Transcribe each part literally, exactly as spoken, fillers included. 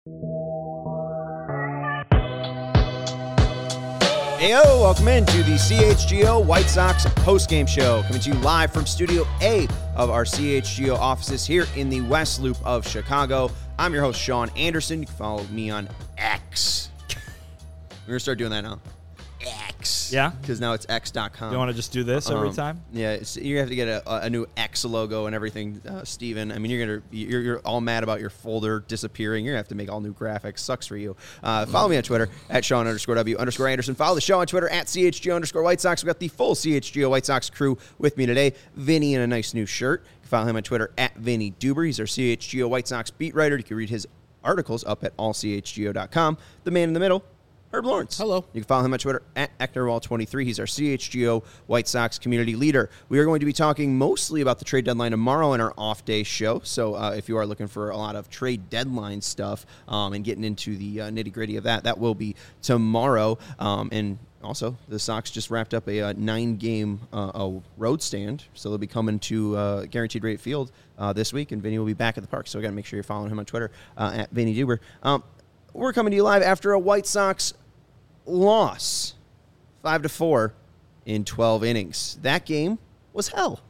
Heyo, welcome into the C H G O White Sox postgame show, coming to you live from Studio A of our C H G O offices here in the West Loop of Chicago. I'm your host, Sean Anderson. You can follow me on X. We're going to start doing that now. X. Yeah? Because now it's X dot com. You want to just do this every Um, time? Yeah, it's, you have to get a, a new X logo and everything, uh, Steven. I mean, you're gonna you're, you're all mad about your folder disappearing. You're gonna have to make all new graphics. Sucks for you. Uh, follow me on Twitter at Sean underscore W underscore Anderson. Follow the show on Twitter at C H G O underscore White Sox. We got the full C H G O White Sox crew with me today. Vinny in a nice new shirt. You can follow him on Twitter at Vinny Duber. He's our C H G O White Sox beat writer. You can read his articles up at all C H G O dot com. The man in the middle, Herb Lawrence. Hello. You can follow him on Twitter at Ecknerwall twenty-three. He's our C H G O White Sox community leader. We are going to be talking mostly about the trade deadline tomorrow in our off-day show. So uh, if you are looking for a lot of trade deadline stuff um, and getting into the uh, nitty-gritty of that, that will be tomorrow. Um, and also, the Sox just wrapped up a, a nine-game uh, a road stand. So they'll be coming to uh, Guaranteed Rate Field uh, this week, and Vinny will be back at the park. So we got to make sure you're following him on Twitter uh, at Vinny Duber. Um, we're coming to you live after a White Sox loss, five to four in twelve innings. That game was hell.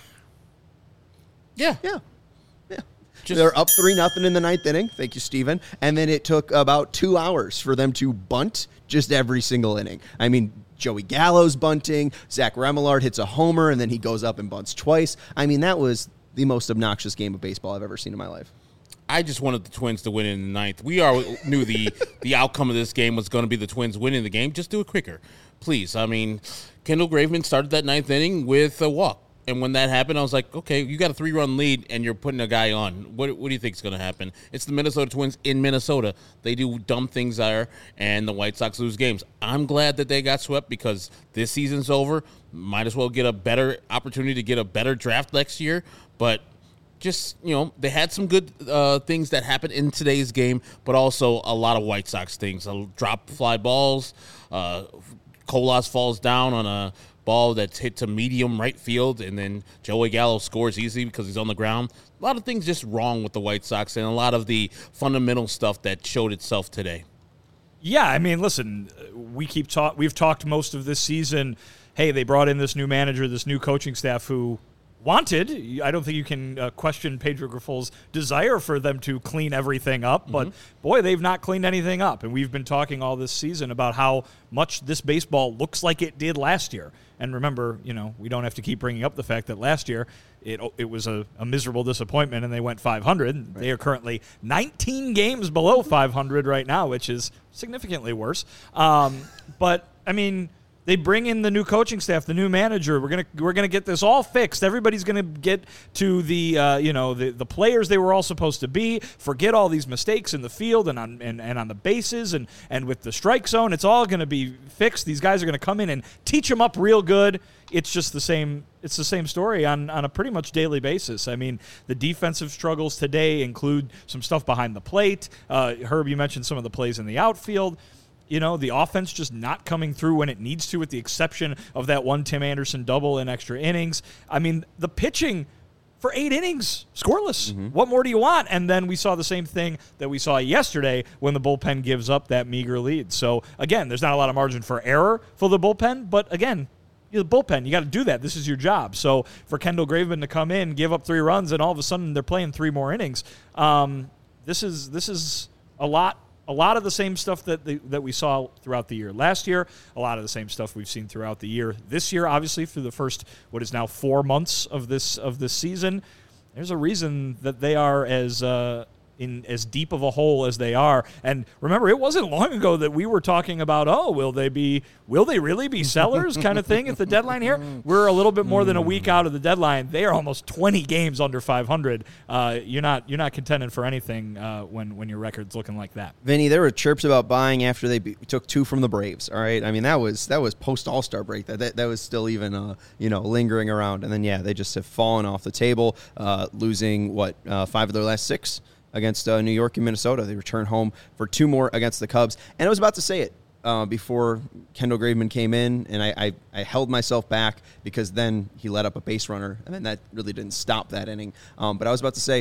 Yeah. Yeah, yeah. Just- They're up three nothing in the ninth inning. Thank you, Steven. And then it took about two hours for them to bunt just every single inning. I mean, Joey Gallo's bunting. Zach Remillard hits a homer, and then he goes up and bunts twice. I mean, that was the most obnoxious game of baseball I've ever seen in my life. I just wanted the Twins to win in the ninth. We are knew the the outcome of this game was going to be the Twins winning the game. Just do it quicker, please. I mean, Kendall Graveman started that ninth inning with a walk. And when that happened, I was like, okay, you got a three-run lead, and you're putting a guy on. What, what do you think is going to happen? It's the Minnesota Twins in Minnesota. They do dumb things there, and the White Sox lose games. I'm glad that they got swept because this season's over. Might as well get a better opportunity to get a better draft next year. But just, you know, they had some good uh, things that happened in today's game, but also a lot of White Sox things. A drop fly balls. Uh, Colas falls down on a ball that's hit to medium right field, and then Joey Gallo scores easy because he's on the ground. A lot of things just wrong with the White Sox and a lot of the fundamental stuff that showed itself today. Yeah, I mean, listen, we keep talk. We've talked most of this season. Hey, they brought in this new manager, this new coaching staff who wanted. I don't think you can uh, question Pedro Grifol's desire for them to clean everything up, but mm-hmm. boy, they've not cleaned anything up. And we've been talking all this season about how much this baseball looks like it did last year. And remember, you know, we don't have to keep bringing up the fact that last year it it was a, a miserable disappointment and they went five hundred. Right. They are currently nineteen games below five hundred right now, which is significantly worse. Um, but, I mean, they bring in the new coaching staff, the new manager. We're gonna we're gonna get this all fixed. Everybody's gonna get to the uh, you know the, the players they were all supposed to be. Forget all these mistakes in the field and on and, and on the bases and, and with the strike zone. It's all gonna be fixed. These guys are gonna come in and teach them up real good. It's just the same. It's the same story on, on a pretty much daily basis. I mean, the defensive struggles today include some stuff behind the plate. Uh, Herb, you mentioned some of the plays in the outfield. You know, the offense just not coming through when it needs to, with the exception of that one Tim Anderson double in extra innings. I mean, the pitching for eight innings, scoreless. Mm-hmm. What more do you want? And then we saw the same thing that we saw yesterday when the bullpen gives up that meager lead. So, again, there's not a lot of margin for error for the bullpen, but, again, you're the bullpen. You got to do that. This is your job. So, for Kendall Graveman to come in, give up three runs, and all of a sudden they're playing three more innings, um, this is this is a lot. A lot of the same stuff that the, that we saw throughout the year last year, a lot of the same stuff we've seen throughout the year this year, obviously, through the first, what is now four months of this of this season. There's a reason that they are as uh, in as deep of a hole as they are. And remember, it wasn't long ago that we were talking about, oh, will they be, will they really be sellers kind of thing at the deadline here? We're a little bit more than a week out of the deadline. They are almost twenty games under five hundred. Uh, you're not you're not contending for anything uh, when when your record's looking like that. Vinny, there were chirps about buying after they be, took two from the Braves. All right, I mean that was that was post All-Star break. That that, that was still even uh, you know lingering around. And then yeah, they just have fallen off the table, uh, losing what uh, five of their last six against uh, New York and Minnesota. They return home for two more against the Cubs. And I was about to say it uh, before Kendall Graveman came in, and I, I, I held myself back because then he let up a base runner, and then that really didn't stop that inning. Um, but I was about to say,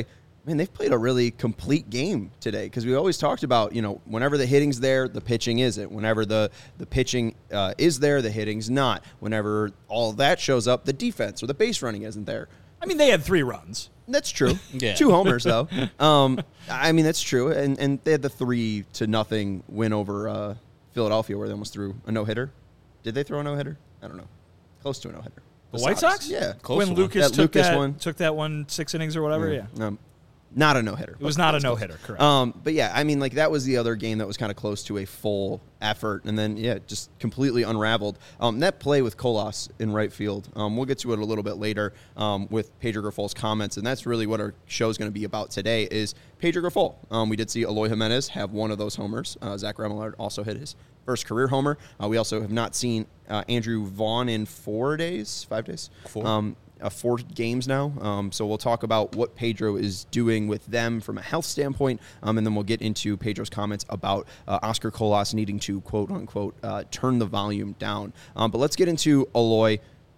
man, they've played a really complete game today because we always talked about, you know, whenever the hitting's there, the pitching isn't. Whenever the, the pitching uh, is there, the hitting's not. Whenever all of that shows up, the defense or the base running isn't there. I mean, they had three runs. That's true. Yeah. Two homers, though. Um, I mean, that's true. And and they had the three to nothing win over uh, Philadelphia where they almost threw a no-hitter. Did they throw a no-hitter? I don't know. Close to a no-hitter. The White Sox? Yeah. Close when one. Lucas, That took, Lucas that, one. took that one six innings or whatever, yeah. Um, not a no-hitter. It was not a no-hitter, correct. Um, but, yeah, I mean, like, that was the other game that was kind of close to a full effort. And then, yeah, just completely unraveled. Um, that play with Colas in right field, um, we'll get to it a little bit later um, with Pedro Grifol's comments. And that's really what our show is going to be about today is Pedro Grifol. Um, we did see Eloy Jimenez have one of those homers. Uh, Zach Remillard also hit his first career homer. Uh, we also have not seen uh, Andrew Vaughn in four days, five days. Four. Um, Uh, four games now. Um, so we'll talk about what Pedro is doing with them from a health standpoint, um, and then we'll get into Pedro's comments about uh, Oscar Colas needing to, quote unquote, uh, turn the volume down. Um, but let's get into Eloy.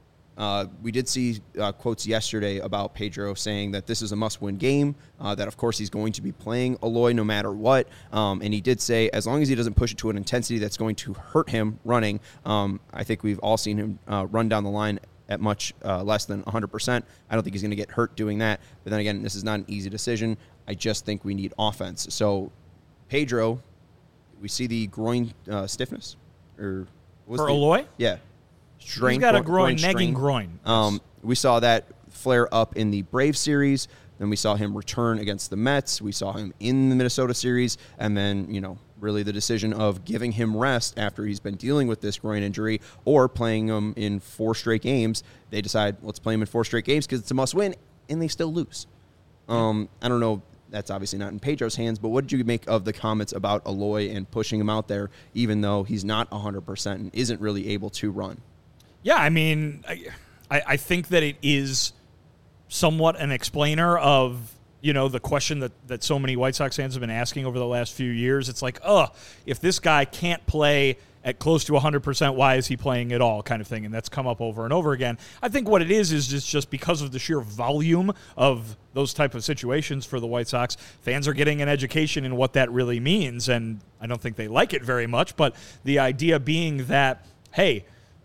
Uh, we did see uh, quotes yesterday about Pedro saying that this is a must-win game, uh, that, of course, he's going to be playing Eloy no matter what. Um, and he did say as long as he doesn't push it to an intensity that's going to hurt him running, um, I think we've all seen him uh, run down the line at much uh, less than one hundred percent. I don't think he's going to get hurt doing that. But then again, this is not an easy decision. I just think we need offense. So, Pedro, we see the groin uh, stiffness. or what was For the, Eloy? Yeah. Strain, He's got a groin, groin, nagging strain. groin. Um, we saw that flare up in the Braves series. Then we saw him return against the Mets. We saw him in the Minnesota series. And then, you know, really the decision of giving him rest after he's been dealing with this groin injury or playing him in four straight games. They decide, let's play him in four straight games because it's a must-win, and they still lose. Um, I don't know. That's obviously not in Pedro's hands, but what did you make of the comments about Eloy and pushing him out there even though he's not one hundred percent and isn't really able to run? Yeah, I mean, I, I think that it is somewhat an explainer of, you know, the question that, that so many White Sox fans have been asking over the last few years. It's like, oh, if this guy can't play at close to one hundred percent, why is he playing at all kind of thing? And that's come up over and over again. I think what it is is just, just because of the sheer volume of those type of situations for the White Sox, fans are getting an education in what that really means. And I don't think they like it very much, but the idea being that, hey,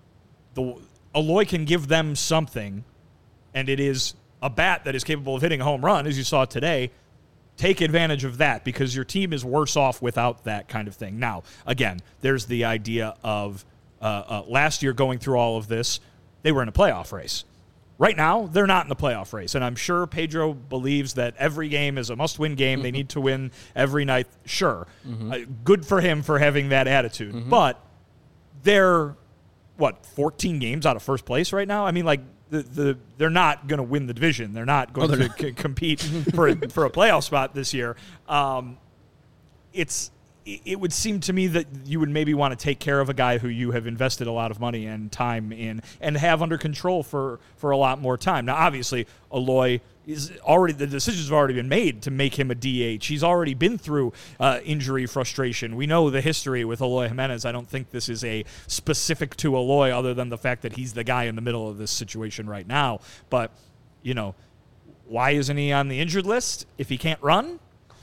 the Eloy can give them something, and it is a bat that is capable of hitting a home run, as you saw today. Take advantage of that because your team is worse off without that kind of thing. Now, again, there's the idea of uh, uh, last year going through all of this, they were in a playoff race. Right now, they're not in the playoff race, and I'm sure Pedro believes that every game is a must-win game. Mm-hmm. They need to win every night. Sure. Mm-hmm. Uh, good for him for having that attitude. Mm-hmm. But they're, what, fourteen games out of first place right now? I mean, like, The, the they're not going to win the division. They're not going oh, they're to not. C- compete for a, for a playoff spot this year. Um, it's it would seem to me that you would maybe want to take care of a guy who you have invested a lot of money and time in and have under control for, for a lot more time. Now, obviously, Eloy is already the decisions have already been made to make him a D H. He's already been through uh, injury frustration. We know the history with Eloy Jimenez. I don't think this is a specific to Eloy other than the fact that he's the guy in the middle of this situation right now. But, you know, why isn't he on the injured list if he can't run?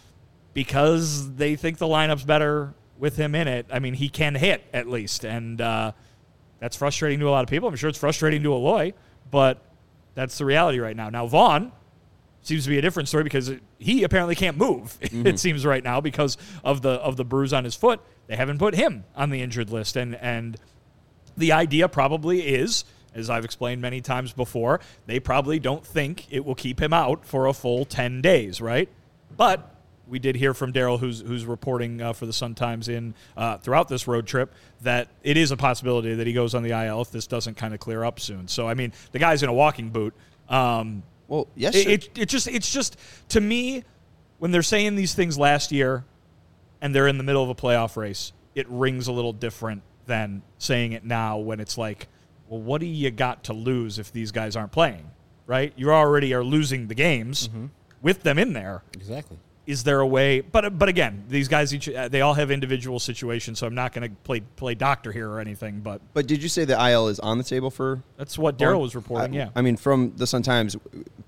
Because they think the lineup's better with him in it. I mean, he can hit at least, and uh, that's frustrating to a lot of people. I'm sure it's frustrating to Eloy, but that's the reality right now. Now, Vaughn seems to be a different story because he apparently can't move, mm-hmm. it seems right now, because of the of the bruise on his foot. They haven't put him on the injured list, and and the idea probably is, as I've explained many times before, they probably don't think it will keep him out for a full ten days, right? But we did hear from Daryl, who's who's reporting uh, for the Sun-Times in uh, throughout this road trip, that it is a possibility that he goes on the I L if this doesn't kind of clear up soon. So, I mean, the guy's in a walking boot. Um, well, yes, it, it, it just it's just to me when they're saying these things last year, and they're in the middle of a playoff race, it rings a little different than saying it now when it's like, well, what do you got to lose if these guys aren't playing, right? You already are losing the games mm-hmm. with them in there. Exactly. Is there a way? But but again, these guys each they all have individual situations, so I'm not going to play play doctor here or anything. But but did you say the I L is on the table for? That's what Daryl was reporting. I, yeah, I mean, from the Sun-Times,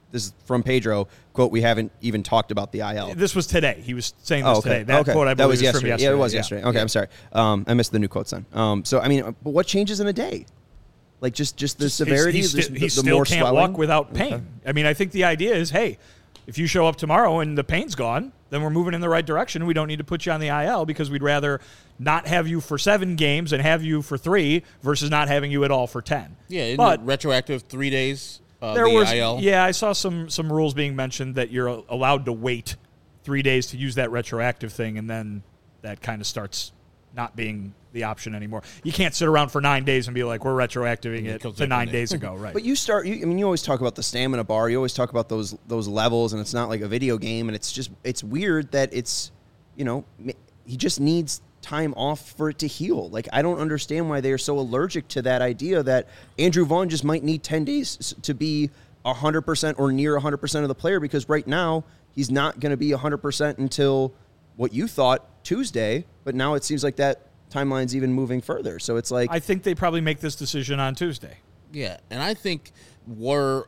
this is from Pedro, quote, we haven't even talked about the I L. This was today. He was saying this oh, okay. today. That okay. quote, I that believe, was is yesterday. from yesterday. Yeah, it was yeah. yesterday. Okay, yeah. I'm sorry. Um, I missed the new quotes then. Um, so, I mean, but what changes in a day? Like, just, just the Just- severity, He, sti- the, he the still more can't swelling? walk without pain. Okay. I mean, I think the idea is, hey, if you show up tomorrow and the pain's gone, then we're moving in the right direction. We don't need to put you on the I L because we'd rather not have you for seven games and have you for three versus not having you at all for ten. Yeah, isn't but it retroactive three days, uh, there the was, I L? yeah, I saw some some rules being mentioned that you're allowed to wait three days to use that retroactive thing, and then that kind of starts not being the option anymore. You can't sit around for nine days and be like, we're retroactiving it comes to back nine in. days ago, right? But you start, you, I mean, you always talk about the stamina bar. You always talk about those those levels, and it's not like a video game. And it's just, it's weird that it's, you know, he just needs time off for it to heal. Like, I don't understand why they are so allergic to that idea that Andrew Vaughn just might need ten days to be one hundred percent or near one hundred percent of the player, because right now he's not going to be one hundred percent until what you thought Tuesday, but now it seems like that timeline's even moving further. So it's like, I think they probably make this decision on Tuesday. Yeah, and I think where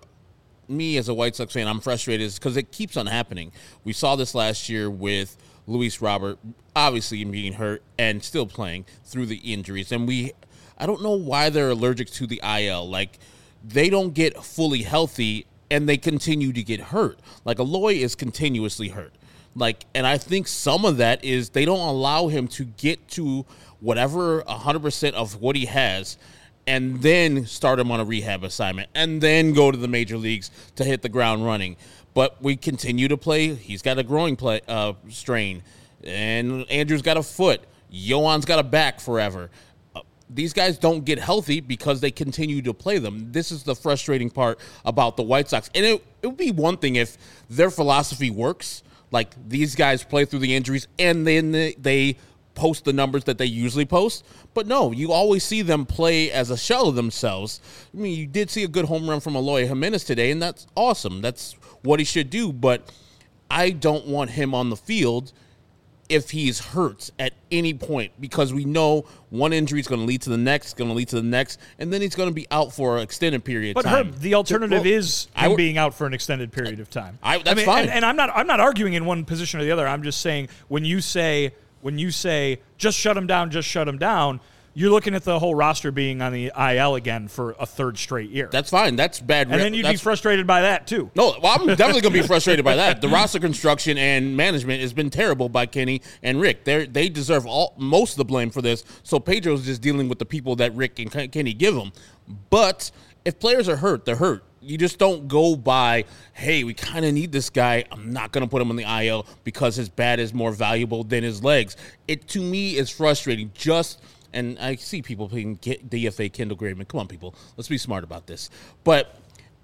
me as a White Sox fan, I'm frustrated is because it keeps on happening. We saw this last year with Luis Robert, obviously being hurt and still playing through the injuries. And we, I don't know why they're allergic to the I L. Like, they don't get fully healthy and they continue to get hurt. Like, Eloy is continuously hurt. Like, and I think some of that is they don't allow him to get to whatever one hundred percent of what he has and then start him on a rehab assignment and then go to the major leagues to hit the ground running. But we continue to play. He's got a growing play, uh, strain, and Andrew's got a foot. Yohan's got a back forever. Uh, these guys don't get healthy because they continue to play them. This is the frustrating part about the White Sox. And it, it would be one thing if their philosophy works, like these guys play through the injuries and then they, they post the numbers that they usually post. But no, you always see them play as a shell of themselves. I mean, you did see a good home run from Eloy Jimenez today, and that's awesome. That's what he should do. But I don't want him on the field if he's hurt at any point, because we know one injury is going to lead to the next, going to lead to the next, and then he's going to be out for an extended period But of time. Herb, the alternative Well, is I him would- being out for an extended period of time. I- that's mean, fine. And, and I'm not I'm not arguing in one position or the other. I'm just saying when you say when you say just shut him down, just shut him down, you're looking at the whole roster being on the I L again for a third straight year. That's fine. That's bad. and then you'd be that's- frustrated by that too. No, well, I'm definitely going to be frustrated by that. The roster construction and management has been terrible by Kenny and Rick. They they deserve all most of the blame for this. So Pedro's just dealing with the people that Rick and Ken- Kenny give him. But if players are hurt, they're hurt. You just don't go by, hey, we kind of need this guy. I'm not going to put him on the I L because his bat is more valuable than his legs. It, to me, is frustrating. Just, and I see people playing D F A Kendall Graveman. Come on, people. Let's be smart about this. But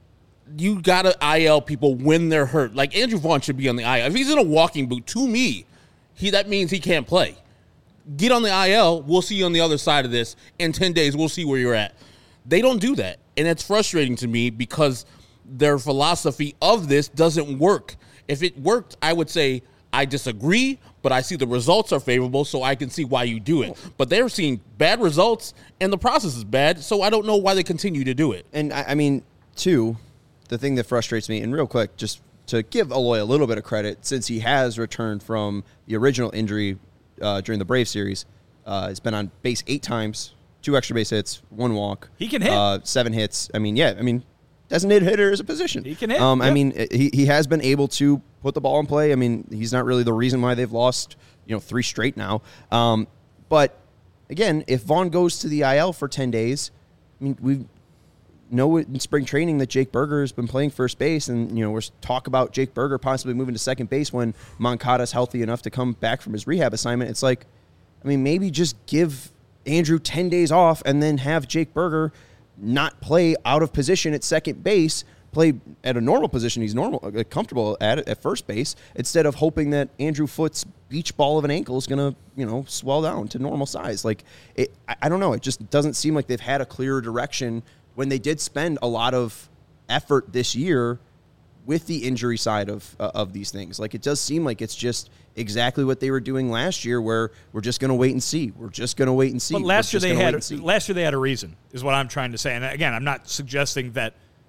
you got to I L people when they're hurt. Like, Andrew Vaughn should be on the I L. If he's in a walking boot, to me, he that means he can't play. Get on the I L. We'll see you on the other side of this. In ten days, we'll see where you're at. They don't do that. And it's frustrating to me because their philosophy of this doesn't work. If it worked, I would say I disagree, but I see the results are favorable, so I can see why you do it. But they're seeing bad results, and the process is bad, so I don't know why they continue to do it. and I, I mean, two, the thing that frustrates me, and real quick, just to give Eloy a little bit of credit, since he has returned from the original injury uh, during the Brave series, uh, he's been on base eight times, two extra base hits, one walk. He can hit. Uh, seven hits. I mean, yeah, I mean, designated hitter is a position. He can hit, Um, I yeah. mean, he, he has been able to put the ball in play. I mean, he's not really the reason why they've lost, you know, three straight now. Um, but, again, if Vaughn goes to the I L for ten days, I mean, we know in spring training that Jake Berger has been playing first base, and, you know, we're talk about Jake Berger possibly moving to second base when Moncada's healthy enough to come back from his rehab assignment. It's like, I mean, maybe just give Andrew ten days off and then have Jake Berger not play out of position at second base, play at a normal position he's normal, uh, comfortable at at first base, instead of hoping that Andrew Foote's beach ball of an ankle is going to, you know, swell down to normal size. Like, it, I, I don't know. It just doesn't seem like they've had a clearer direction when they did spend a lot of effort this year with the injury side of uh, of these things. Like, it does seem like it's just exactly what they were doing last year, where we're just going to wait and see. We're just going to wait and see. But last We're year just they gonna wait had and see. last year they had a reason, is what I'm trying to say. And again, I'm not suggesting that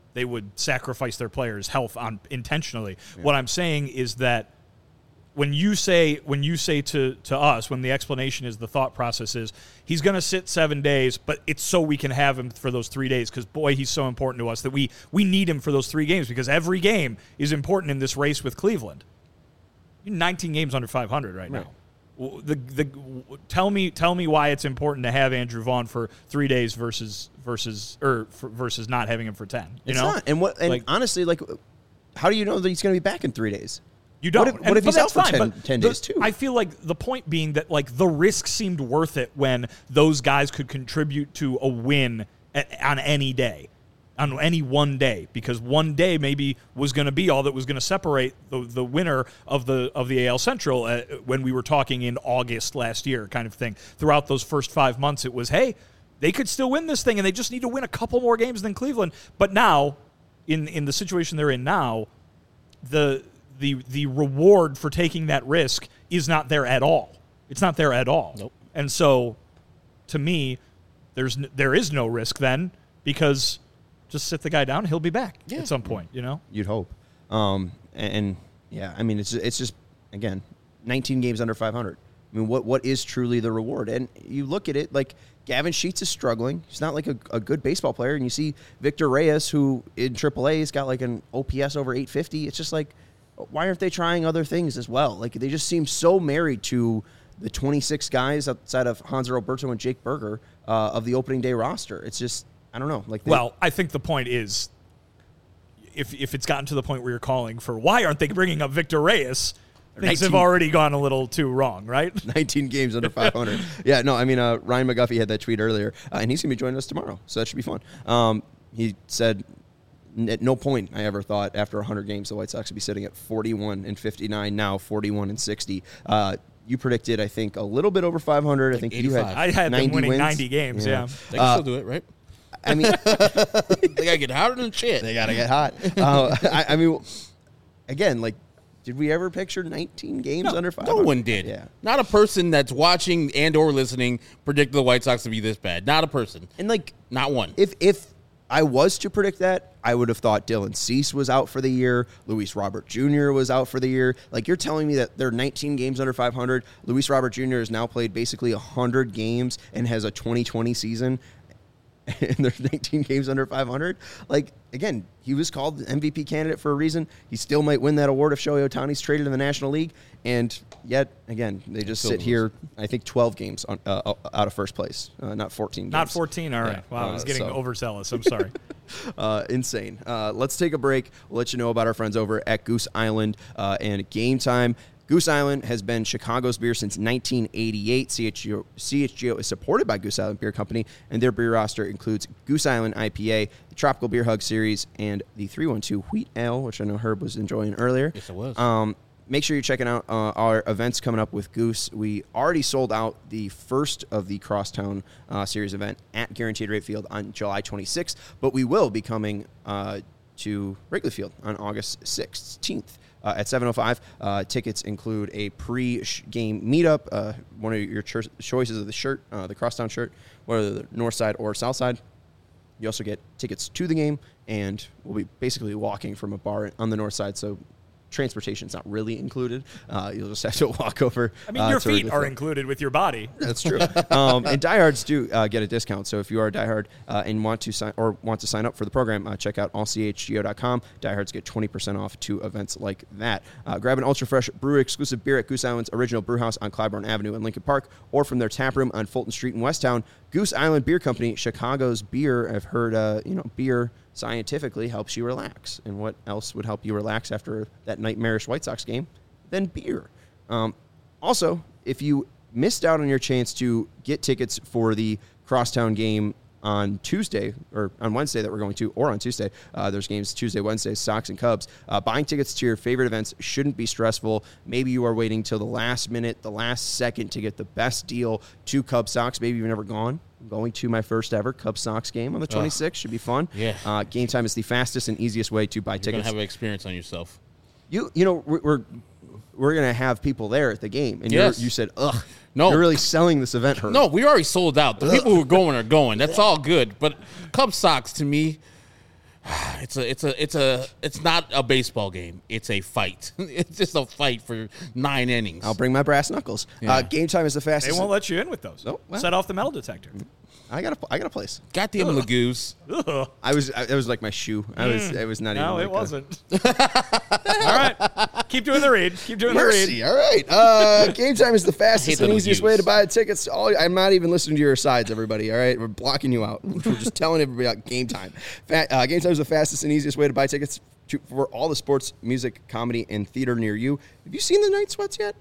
they would sacrifice their players' health on intentionally. Yeah. What I'm saying is that when you say when you say to, to us, when the explanation is the thought process is he's going to sit seven days, but it's so we can have him for those three days because, boy, he's so important to us that we, we need him for those three games because every game is important in this race with Cleveland. You're nineteen games under five hundred right, right. now. The the tell me tell me why it's important to have Andrew Vaughn for three days versus versus or for, versus not having him for ten. You it's know, not. And what? And like, honestly, like, how do you know that he's going to be back in three days? You don't. What if, what if he's out for fine, ten, ten days the, too? I feel like the point being that like the risk seemed worth it when those guys could contribute to a win at, on any day, on any one day, because one day maybe was going to be all that was going to separate the the winner of the of the A L Central uh, when we were talking in August last year, kind of thing. Throughout those first five months, it was, hey, they could still win this thing, and they just need to win a couple more games than Cleveland. But now, in in the situation they're in now, the the the reward for taking that risk is not there at all. It's not there at all. Nope. And so, to me, there's n- there is no risk then because just sit the guy down, he'll be back yeah. at some point. You know, you'd hope. Um, and, and yeah, I mean, it's it's just again, nineteen games under five hundred. I mean, what what is truly the reward? And you look at it like Gavin Sheets is struggling. He's not like a, a good baseball player. And you see Victor Reyes, who in triple A has got like an O P S over eight fifty. It's just like, why aren't they trying other things as well? Like, they just seem so married to the twenty-six guys outside of Hanser Alberto and Jake Berger uh, of the opening day roster. It's just, I don't know. Like, they, well, I think the point is, if if it's gotten to the point where you're calling for why aren't they bringing up Victor Reyes, things have already gone a little too wrong, right? nineteen games under five hundred. Yeah, no, I mean, uh, Ryan McGuffey had that tweet earlier, uh, and he's going to be joining us tomorrow, so that should be fun. Um, he said, at no point I ever thought after one hundred games the White Sox would be sitting at forty-one and fifty-nine, now forty-one and sixty. Uh, you predicted, I think, a little bit over five hundred. Like I think eighty-five. you had I had them winning wins. ninety games, yeah. yeah. They can uh, still do it, right? I mean, they got to get hotter than shit. They got to get hot. Uh, I, I mean, again, like, did we ever picture nineteen games no, under five hundred? No one did. Yeah. Not a person that's watching and or listening predicted the White Sox to be this bad. Not a person. And, like, not one. If if I was to predict that, I would have thought Dylan Cease was out for the year. Luis Robert Junior was out for the year. Like, you're telling me that they're nineteen games under five hundred. Luis Robert Junior has now played basically one hundred games and has a twenty twenty season. And there's nineteen games under five hundred. Like, again, he was called the M V P candidate for a reason. He still might win that award if Shohei Ohtani's traded in the National League. And yet, again, they just sit here, I think, twelve games on, uh, out of first place, uh, not fourteen games. Not fourteen, all right. Yeah. Wow, uh, I was getting so. overzealous. I'm sorry. uh, insane. Uh, let's take a break. We'll let you know about our friends over at Goose Island uh, and Game Time. Goose Island has been Chicago's beer since nineteen eighty-eight. C H G O, C H G O is supported by Goose Island Beer Company, and their beer roster includes Goose Island I P A, the Tropical Beer Hug Series, and the three one two Wheat Ale, which I know Herb was enjoying earlier. Yes, it was. Um, make sure you're checking out uh, our events coming up with Goose. We already sold out the first of the Crosstown uh, Series event at Guaranteed Rate Field on July twenty-sixth, but we will be coming uh, to Wrigley Field on August sixteenth. Uh, at seven oh five, uh, tickets include a pre-game meetup, uh, one of your cho- choices of the shirt, uh, the Crosstown shirt, whether the north side or south side. You also get tickets to the game, and we'll be basically walking from a bar on the north side, so transportation's not really included. Uh, you'll just have to walk over. I mean, uh, your feet are included with your body. That's true. um, and diehards do uh, get a discount. So if you are a diehard uh, and want to sign or want to sign up for the program, uh, check out all c h g o dot com. Diehards get twenty percent off to events like that. Uh, grab an ultra fresh brewery exclusive beer at Goose Island's original brew house on Clybourne Avenue in Lincoln Park, or from their tap room on Fulton Street in Westtown. Goose Island Beer Company, Chicago's beer. I've heard, uh, you know, beer scientifically helps you relax. And what else would help you relax after that nightmarish White Sox game than beer? Um, also, if you missed out on your chance to get tickets for the Crosstown game on Tuesday, or on Wednesday that we're going to, or on Tuesday, uh, there's games Tuesday, Wednesday, Sox and Cubs. Uh, buying tickets to your favorite events shouldn't be stressful. Maybe you are waiting till the last minute, the last second to get the best deal to Cubs Sox. Maybe you've never gone. I'm going to my first ever Cubs Sox game on the twenty-sixth. Should be fun. Yeah. Uh, Game Time is the fastest and easiest way to buy You're tickets. You're going to have an experience on yourself. You you know, we're we're, we're going to have people there at the game. And yes. you're, you said, ugh. No. You're really selling this event, Herb. No, we already sold out. The people who are going are going. That's all good. But Cubs Sox, to me, It's a, it's a, it's a, it's not a baseball game. It's a fight. It's just a fight for nine innings. I'll bring my brass knuckles. Yeah. Uh, game time is the They fastest. won't let you in with those. Oh, well. Set off the metal detector. I got a, I got a place. Goddamn Lagoose. Ugh. I was, I, it was like my shoe. I was, it was not even. No, like it a- wasn't. All right. Keep doing the read. Keep doing the read. Mercy. All right. Uh, game time is the fastest the and easiest reviews. way to buy tickets. All, I'm not even listening to your sides, everybody. All right. We're blocking you out. We're just telling everybody about game time. Fa- uh, game time is the fastest and easiest way to buy tickets to, for all the sports, music, comedy, and theater near you. Have you seen the Night Sweats yet?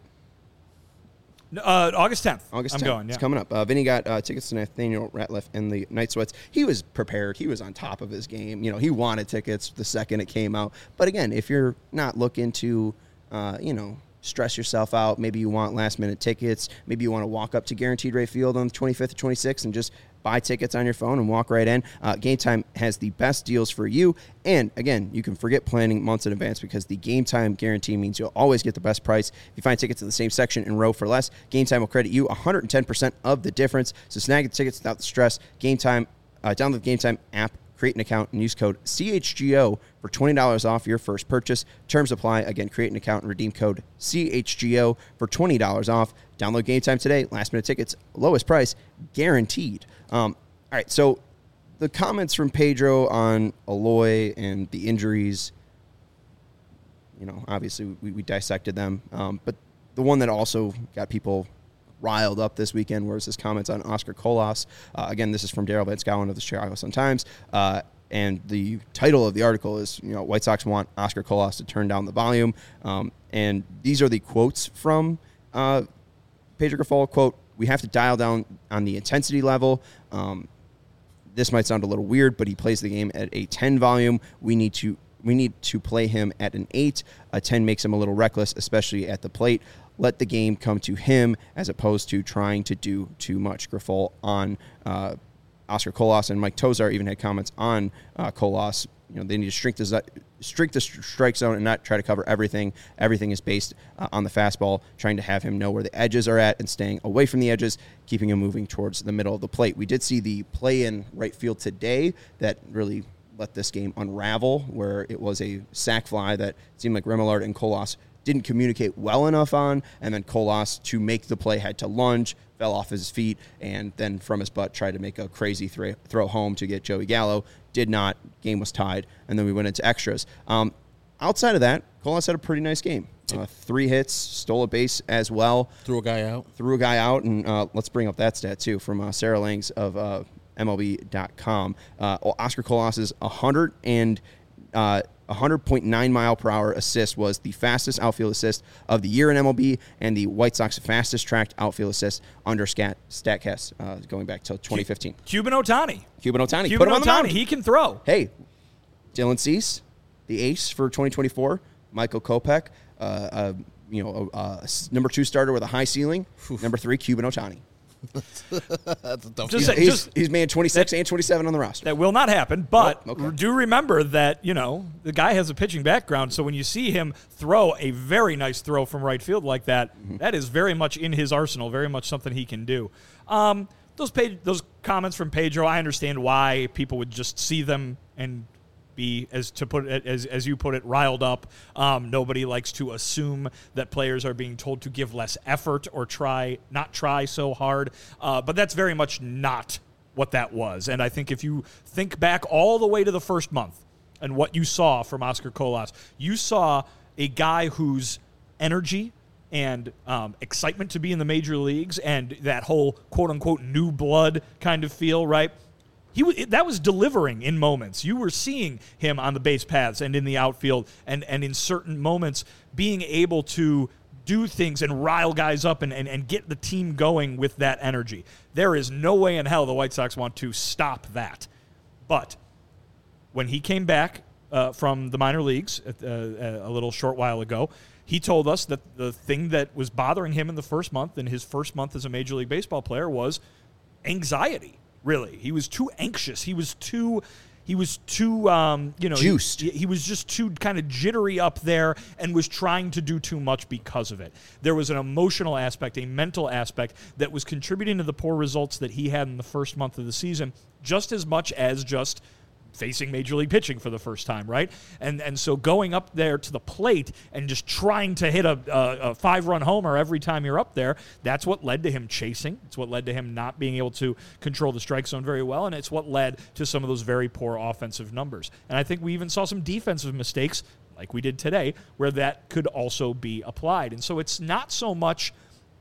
Uh, August tenth. August I'm tenth. going, yeah. It's coming up. Uh, Vinny got uh, tickets to Nathaniel Ratliff and the Night Sweats. He was prepared. He was on top of his game. You know, he wanted tickets the second it came out. But again, if you're not looking to, uh, you know, stress yourself out, maybe you want last minute tickets, maybe you want to walk up to Guaranteed Rate Field on the twenty-fifth or twenty-sixth and just buy tickets on your phone and walk right in. Uh, Game Time has the best deals for you. And again, you can forget planning months in advance because the Game Time guarantee means you'll always get the best price. If you find tickets in the same section and row for less, Game Time will credit you one hundred ten percent of the difference. So snag the tickets without the stress. Game Time, uh, download the Game Time app, create an account, and use code C H G O for twenty dollars off your first purchase. Terms apply. Again, create an account and redeem code C H G O for twenty dollars off. Download Game Time today. Last minute tickets, lowest price, guaranteed. Um, all right, so the comments from Pedro on Eloy and the injuries, you know, obviously we, we dissected them. Um, but the one that also got people riled up this weekend was his comments on Oscar Colas. Uh, again, this is from Daryl Van Schouwen of the Chicago Sun-Times. Uh, and the title of the article is, you know, White Sox want Oscar Colas to turn down the volume. Um, and these are the quotes from uh, Pedro Grifol. Quote, "We have to dial down on the intensity level. Um, this might sound a little weird, but he plays the game at a ten volume. We need to we need to play him at an eight. A ten makes him a little reckless, especially at the plate. Let the game come to him as opposed to trying to do too much." Grifol on uh, Oscar Colas, and Mike Tozar even had comments on uh, Colas. You know, they need to shrink the shrink the strike zone and not try to cover everything. Everything is based uh, on the fastball, trying to have him know where the edges are at and staying away from the edges, keeping him moving towards the middle of the plate. We did see the play in right field today that really let this game unravel, where it was a sac fly that seemed like Remillard and Colas didn't communicate well enough on, and then Colas, to make the play, had to lunge, fell off his feet, and then from his butt tried to make a crazy throw, throw home to get Joey Gallo. Did not. Game was tied, and then we went into extras. Um, outside of that, Colas had a pretty nice game. Uh, three hits, stole a base as well. Threw a guy out. Threw a guy out, and uh, let's bring up that stat, too, from uh, Sarah Langs of uh, M L B dot com. Uh, Oscar Colas's one hundred and uh, one hundred point nine mile per hour assist was the fastest outfield assist of the year in M L B, and the White Sox fastest tracked outfield assist under Stat, StatCast uh, going back to twenty fifteen. Cuban Otani. Cuban Otani, Cuban put him on the Otani. mound. He can throw. Hey, Dylan Cease, the ace for twenty twenty-four. Michael Kopech, uh, uh, you know, a, a number two starter with a high ceiling. Oof. Number three, Cuban Otani. That's a tough Just He's, say- he's, he's made twenty-six and twenty-seven on the roster. That will not happen, but Oh, okay. do remember that, you know, the guy has a pitching background, so when you see him throw a very nice throw from right field like that, Mm-hmm. that is very much in his arsenal, very much something he can do. Um, those page, those comments from Pedro, I understand why people would just see them and be, as to put it, as as you put it, riled up. Um, nobody likes to assume that players are being told to give less effort or try not try so hard, uh, but that's very much not what that was. And I think if you think back all the way to the first month and what you saw from Oscar Colas, you saw a guy whose energy and um, excitement to be in the major leagues and that whole quote-unquote new blood kind of feel, right? He w- that was delivering in moments. You were seeing him on the base paths and in the outfield and, and in certain moments being able to do things and rile guys up and, and, and get the team going with that energy. There is no way in hell the White Sox want to stop that. But when he came back uh, from the minor leagues uh, a little short while ago, he told us that the thing that was bothering him in the first month, in his first month as a Major League Baseball player, was anxiety, really. He was too anxious. He was too... He was too, um, you know, Juiced. He, he was just too kind of jittery up there and was trying to do too much because of it. There was an emotional aspect, a mental aspect that was contributing to the poor results that he had in the first month of the season, just as much as just facing Major League pitching for the first time, right? And and so going up there to the plate and just trying to hit a, a, a five-run homer every time you're up there, that's what led to him chasing. It's what led to him not being able to control the strike zone very well, and it's what led to some of those very poor offensive numbers. And I think we even saw some defensive mistakes, like we did today, where that could also be applied. And so it's not so much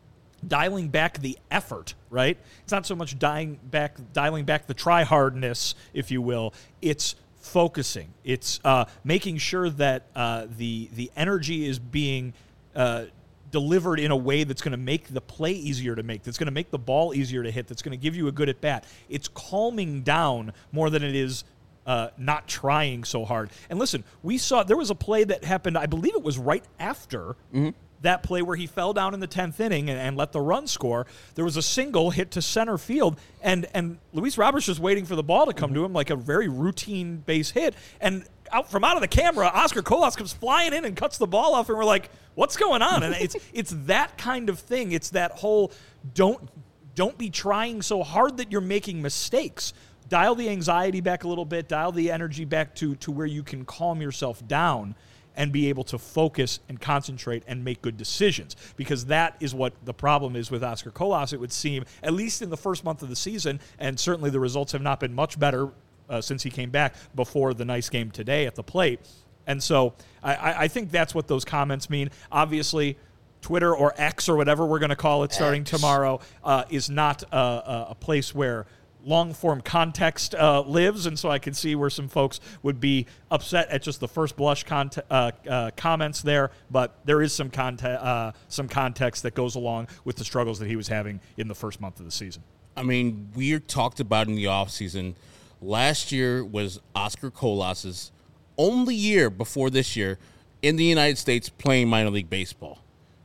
dialing back the effort, right? It's not so much dialing back, dialing back the try-hardness, if you will. It's focusing. It's uh, making sure that uh, the the energy is being uh, delivered in a way that's going to make the play easier to make, that's going to make the ball easier to hit, that's going to give you a good at-bat. It's calming down more than it is Uh, not trying so hard. And listen, we saw there was a play that happened, I believe it was right after mm-hmm. that play where he fell down in the tenth inning and, and let the run score. There was a single hit to center field, and, and Luis Roberts was waiting for the ball to come mm-hmm. to him like a very routine base hit. And out from out of the camera, Oscar Colas comes flying in and cuts the ball off, and we're like, what's going on? And it's it's that kind of thing. It's that whole don't don't be trying so hard that you're making mistakes. Dial the anxiety back a little bit, dial the energy back to, to where you can calm yourself down and be able to focus and concentrate and make good decisions, because that is what the problem is with Oscar Colas, it would seem, at least in the first month of the season, and certainly the results have not been much better uh, since he came back before the nice game today at the plate. And so I, I think that's what those comments mean. Obviously, Twitter or X or whatever we're going to call it starting X. tomorrow uh, is not a, a place where long-form context uh, lives, and so I can see where some folks would be upset at just the first blush cont- uh, uh, comments there, but there is some, conte- uh, some context that goes along with the struggles that he was having in the first month of the season. I mean, we talked about in the offseason, last year was Oscar Colas's only year before this year in the United States playing minor league baseball.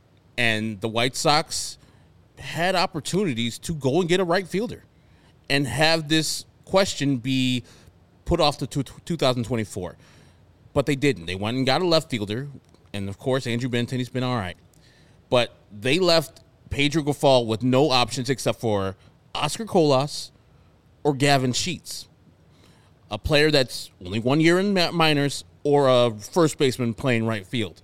And the White Sox had opportunities to go and get a right fielder and have this question be put off to two thousand twenty-four. But they didn't. They went and got a left fielder, and, of course, Andrew Benintendi's been all right. But they left Pedro Grifol with no options except for Oscar Colas or Gavin Sheets, a player that's only one year in minors or a first baseman playing right field.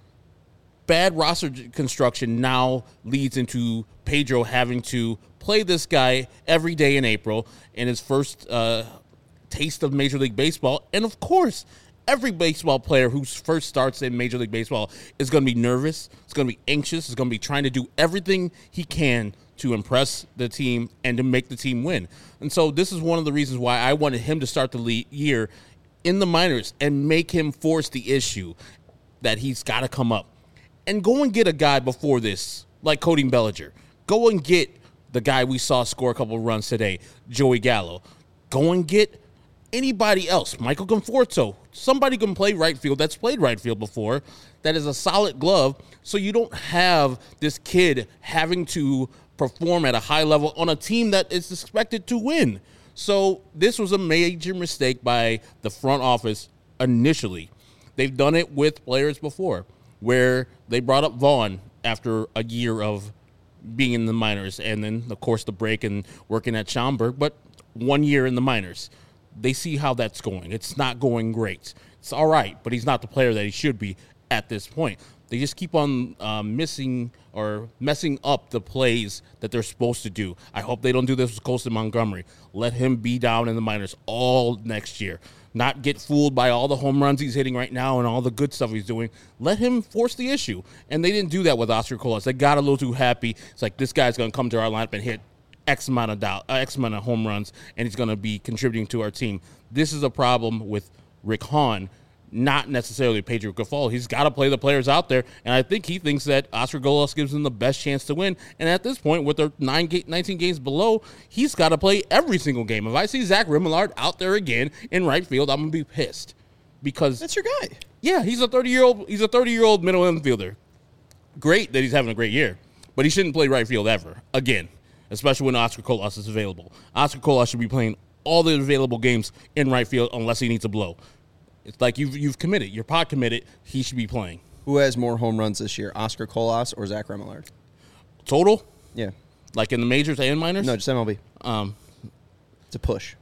Bad roster construction now leads into Pedro having to play this guy every day in April in his first uh, taste of Major League Baseball. And, of course, every baseball player who first starts in Major League Baseball is going to be nervous, is going to be anxious, is going to be trying to do everything he can to impress the team and to make the team win. And so this is one of the reasons why I wanted him to start the lead year in the minors and make him force the issue that he's got to come up. And go and get a guy before this, like Cody Bellinger. Go and get the guy we saw score a couple of runs today, Joey Gallo. Go and get anybody else, Michael Conforto. Somebody can play right field that's played right field before, that is a solid glove, so you don't have this kid having to perform at a high level on a team that is expected to win. So this was a major mistake by the front office initially. They've done it with players before, where they brought up Vaughn after a year of being in the minors, and then, of course, the break and working at Schaumburg, but one year in the minors. They see how that's going. It's not going great. It's all right, but he's not the player that he should be at this point. They just keep on uh, missing or messing up the plays that they're supposed to do. I hope they don't do this with Colson Montgomery. Let him be down in the minors all next year. Not get fooled by all the home runs he's hitting right now and all the good stuff he's doing. Let him force the issue. And they didn't do that with Oscar Colas. They got a little too happy. It's like, this guy's going to come to our lineup and hit X amount of do- uh, X amount of home runs, and he's going to be contributing to our team. This is a problem with Rick Hahn, not necessarily Pedro Grifol. He's got to play the players out there, and I think he thinks that Oscar Colas gives him the best chance to win. And at this point, with their nine, nineteen games below, he's got to play every single game. If I see Zach Remillard out there again in right field, I'm going to be pissed, because that's your guy. Yeah, he's a thirty-year-old. He's a thirty-year-old middle infielder. Great that he's having a great year, but he shouldn't play right field ever again, especially when Oscar Colas is available. Oscar Colas should be playing all the available games in right field unless he needs a blow. It's like you've you've committed. You're pot committed. He should be playing. Who has more home runs this year, Oscar Colas or Zach Remillard? Total? Yeah. Like in the majors and minors? No, just M L B. Um, it's a push.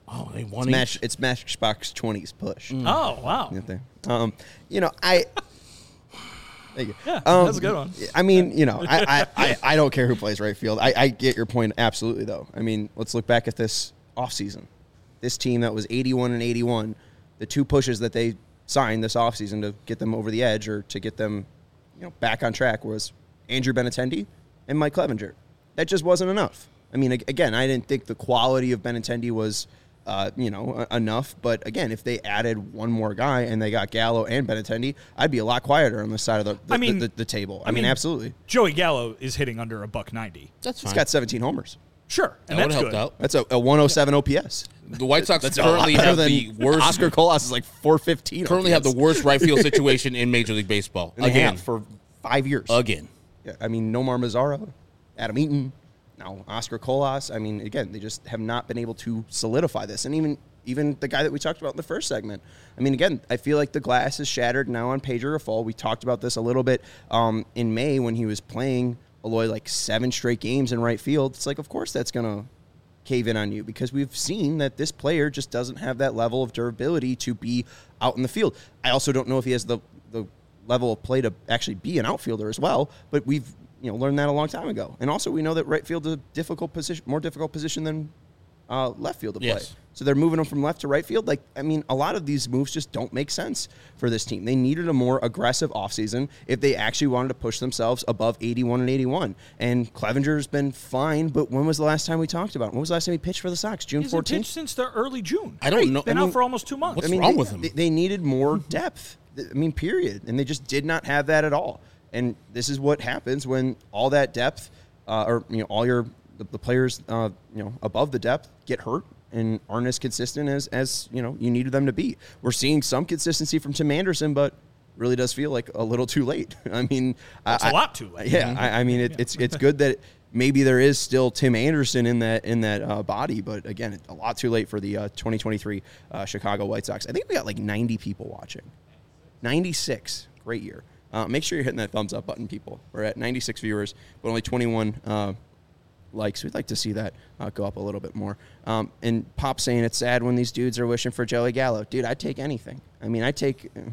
Oh, they won It's, match, it's Matchbox twenty's push. Mm. Oh, wow. Right there. Um, you know, I. Thank you. Yeah, Um, that's a good one. I mean, you know, I, I, I, I don't care who plays right field. I, I get your point absolutely, though. I mean, let's look back at this offseason. This team that was eighty-one and eighty-one, the two pushes that they signed this offseason to get them over the edge or to get them, you know, back on track was Andrew Benintendi and Mike Clevenger. That just wasn't enough. I mean, again, I didn't think the quality of Benintendi was, uh, you know, enough. But again, if they added one more guy and they got Gallo and Benintendi, I'd be a lot quieter on the side of the, the, I mean, the, the, the table. I, I mean, mean, absolutely. Joey Gallo is hitting under a buck ninety. That's fine. He's got seventeen homers. Sure, and that would that's have good. helped out. That's a, a one oh seven O P S. The White Sox That's a currently lot better have than the worst. Oscar Colas is like four fifteen. currently have the worst right field situation in Major League Baseball. And they Again, have for five years. again. Yeah, I mean, Nomar Mazara, Adam Eaton, now Oscar Colas. I mean, again, they just have not been able to solidify this. And even even the guy that we talked about in the first segment. I mean, again, I feel like the glass is shattered now on Pedro Grifol. We talked about this a little bit um, in May when he was playing Eloy like seven straight games in right field. It's like, of course, that's going to cave in on you because we've seen that this player just doesn't have that level of durability to be out in the field. I also don't know if he has the the level of play to actually be an outfielder as well, but we've you know learned that a long time ago. And also we know that right field is a difficult position, more difficult position than uh, left field to play. Yes. So they're moving them from left to right field. Like, I mean, a lot of these moves just don't make sense for this team. They needed a more aggressive offseason if they actually wanted to push themselves above eighty-one and eighty-one. And Clevenger's been fine, but when was the last time we talked about him? When was the last time he pitched for the Sox? June He's fourteenth? pitched since the early June. I don't know. Been I out mean, for almost two months. what's I mean, wrong they, with him? They, they needed more depth. I mean, period. And they just did not have that at all. And this is what happens when all that depth, uh, or you know, all your the, the players, uh, you know, above the depth get hurt and aren't as consistent as as you know you needed them to be. We're seeing some consistency from Tim Anderson, but really does feel like a little too late. I mean, It's I, a lot too late. Yeah, I, I mean, it, it's it's good that maybe there is still Tim Anderson in that in that uh, body, but again, it's a lot too late for the uh, twenty twenty-three uh, Chicago White Sox. I think we got like ninety people watching. ninety-six, great year. Uh, make sure you're hitting that thumbs up button, people. We're at ninety-six viewers, but only twenty-one uh, likes. We'd like to see that uh, go up a little bit more. Um, and Pop saying it's sad when these dudes are wishing for Joey Gallo. Dude, I'd take anything. I mean, I'd take. Uh,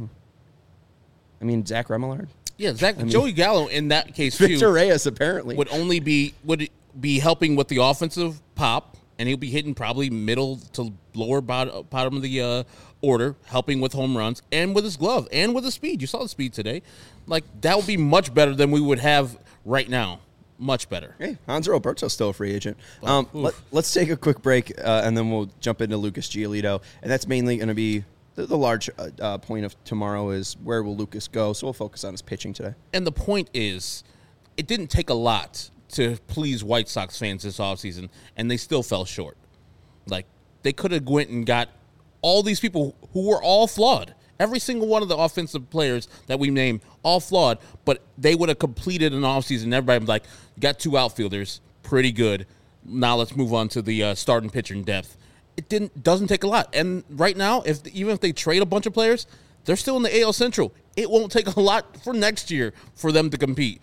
I mean, Zach Remillard. Yeah, Zach, I mean, Joey Gallo in that case too Victor Reyes apparently would only be would be helping with the offensive pop, and he'll be hitting probably middle to lower bottom, bottom of the uh, order, helping with home runs and with his glove and with his speed. You saw the speed today. Like that would be much better than we would have right now. Much better. Hey, Hanser Alberto's still a free agent. Um, let, let's take a quick break, uh, and then we'll jump into Lucas Giolito. And that's mainly going to be the, the large uh, uh, point of tomorrow is where will Lucas go. So we'll focus on his pitching today. And the point is, it didn't take a lot to please White Sox fans this offseason, and they still fell short. Like, they could have went and got all these people who were all flawed. Every single one of the offensive players that we named, all flawed, but they would have completed an offseason. Everybody was like, got two outfielders, pretty good. Now let's move on to the uh, starting pitcher in depth. It didn't doesn't take a lot. And right now, if even if they trade a bunch of players, they're still in the A L Central. It won't take a lot for next year for them to compete.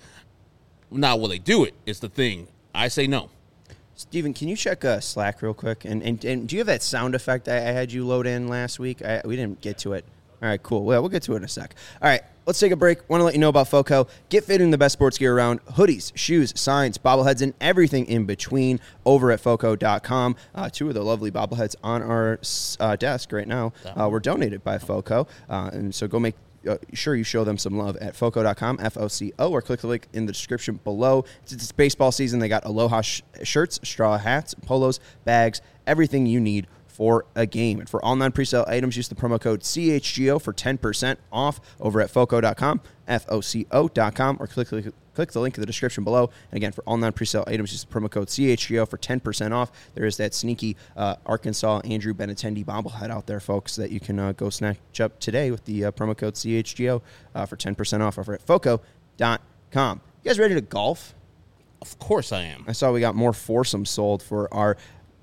Now, will they do it is the thing. I say no. Steven, can you check uh, Slack real quick? And, and and do you have that sound effect I, I had you load in last week? I, we didn't get to it. All right, cool. Well, we'll get to it in a sec. All right, let's take a break. Want to let you know about FOCO. Get fitting the best sports gear around. Hoodies, shoes, signs, bobbleheads, and everything in between over at foco dot com. Uh, two of the lovely bobbleheads on our uh, desk right now uh, were donated by FOCO. Uh, and so go make uh, sure you show them some love at foco dot com, F O C O, or click the link in the description below. Since it's baseball season, they got Aloha sh- shirts, straw hats, polos, bags, everything you need for a game. And for all non-presale items, use the promo code C H G O for ten percent off over at foco dot com, F O C O dot com, or click, click, click the link in the description below. And again, for all non-presale items, use the promo code C H G O for ten percent off. There is that sneaky uh, Arkansas Andrew Benintendi bobblehead out there, folks, that you can uh, go snatch up today with the uh, promo code C H G O uh, for ten percent off over at foco dot com. You guys ready to golf? Of course I am. I saw we got more foursomes sold for our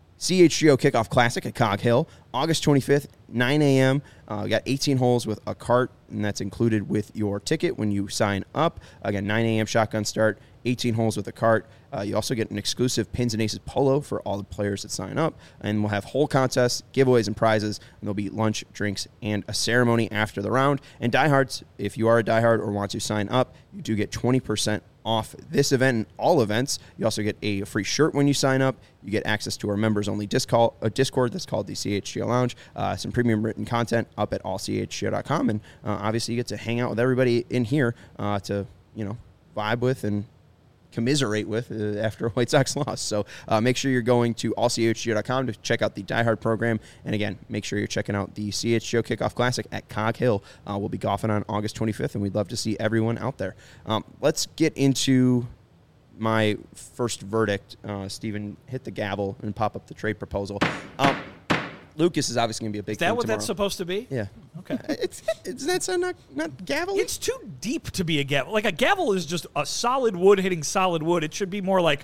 C H G O Kickoff Classic at Cog Hill, August twenty-fifth, nine a.m. Uh, we got eighteen holes with a cart, and that's included with your ticket when you sign up. Again, nine a.m. shotgun start, eighteen holes with a cart. Uh, you also get an exclusive Pins and Aces polo for all the players that sign up. And we'll have whole contests, giveaways, and prizes. And there'll be lunch, drinks, and a ceremony after the round. And diehards, if you are a diehard or want to sign up, you do get twenty percent off this event and all events. You also get a free shirt when you sign up. You get access to our members-only Discord, uh, Discord that's called the C H G O Lounge, uh, some premium written content up at all c h g o dot com, and uh, obviously you get to hang out with everybody in here uh, to, you know, vibe with and commiserate with uh, after a White Sox loss. So uh, make sure you're going to all c h g o dot com to check out the Die Hard program. And again, make sure you're checking out the C H G O Kickoff Classic at Cog Hill. Uh, we'll be golfing on August twenty-fifth, and we'd love to see everyone out there. Um, let's get into my first verdict. Uh, Steven, hit the gavel and pop up the trade proposal. Um, Lucas is obviously going to be a big Is that thing what tomorrow. that's supposed to be? Yeah. Okay. It's, it's that sound not, not gavel? It's too deep to be a gavel. Like, a gavel is just a solid wood hitting solid wood. It should be more like,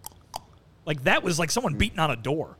like that was like someone beating on a door.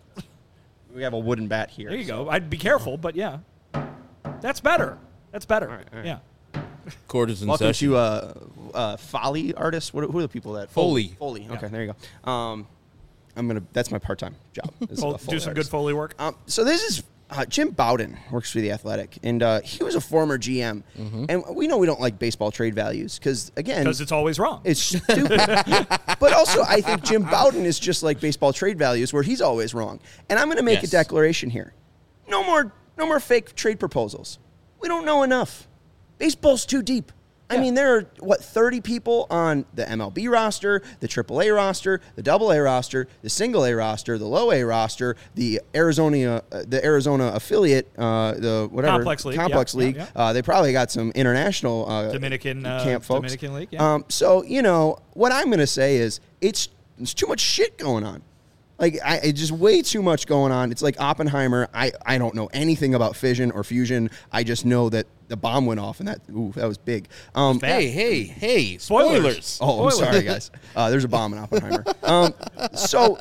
We have a wooden bat here. There you so. go. I'd be careful, but yeah. That's better. That's better. All right, all right. Yeah. Court is in Welcome session. to uh, uh, Foley artists. What, who are the people that Foley. Foley. Okay, Yeah. there you go. Um, I'm gonna. That's my part-time job. is Fol- a Foley do some artist. good Foley work. Um, so this is uh, Jim Bowden works for the Athletic, and uh, he was a former G M. And we know we don't like baseball trade values because again, Because it's always wrong. it's stupid. But also, I think Jim Bowden is just like baseball trade values, where he's always wrong. And I'm going to make Yes. a declaration here: no more, no more fake trade proposals. We don't know enough. Baseball's too deep. I Yeah. mean, there are, what, thirty people on the M L B roster, the triple A roster, the double A roster, the single A roster, the low A roster, the Arizona uh, the Arizona affiliate, uh, the whatever. Complex League, Complex yeah, yeah, League. yeah. Uh, they probably got some international uh, Dominican, uh, camp folks. Dominican League, yeah. Um, so, you know, what I'm going to say is it's, it's too much shit going on. Like, I, it's just way too much going on. It's like Oppenheimer. I, I don't know anything about fission or fusion. I just know that the bomb went off, and that ooh, that was big. Um, Hey, hey, hey! Spoilers. Spoilers. Oh, I'm Spoilers. sorry, guys. Uh, there's a bomb in Oppenheimer. um, so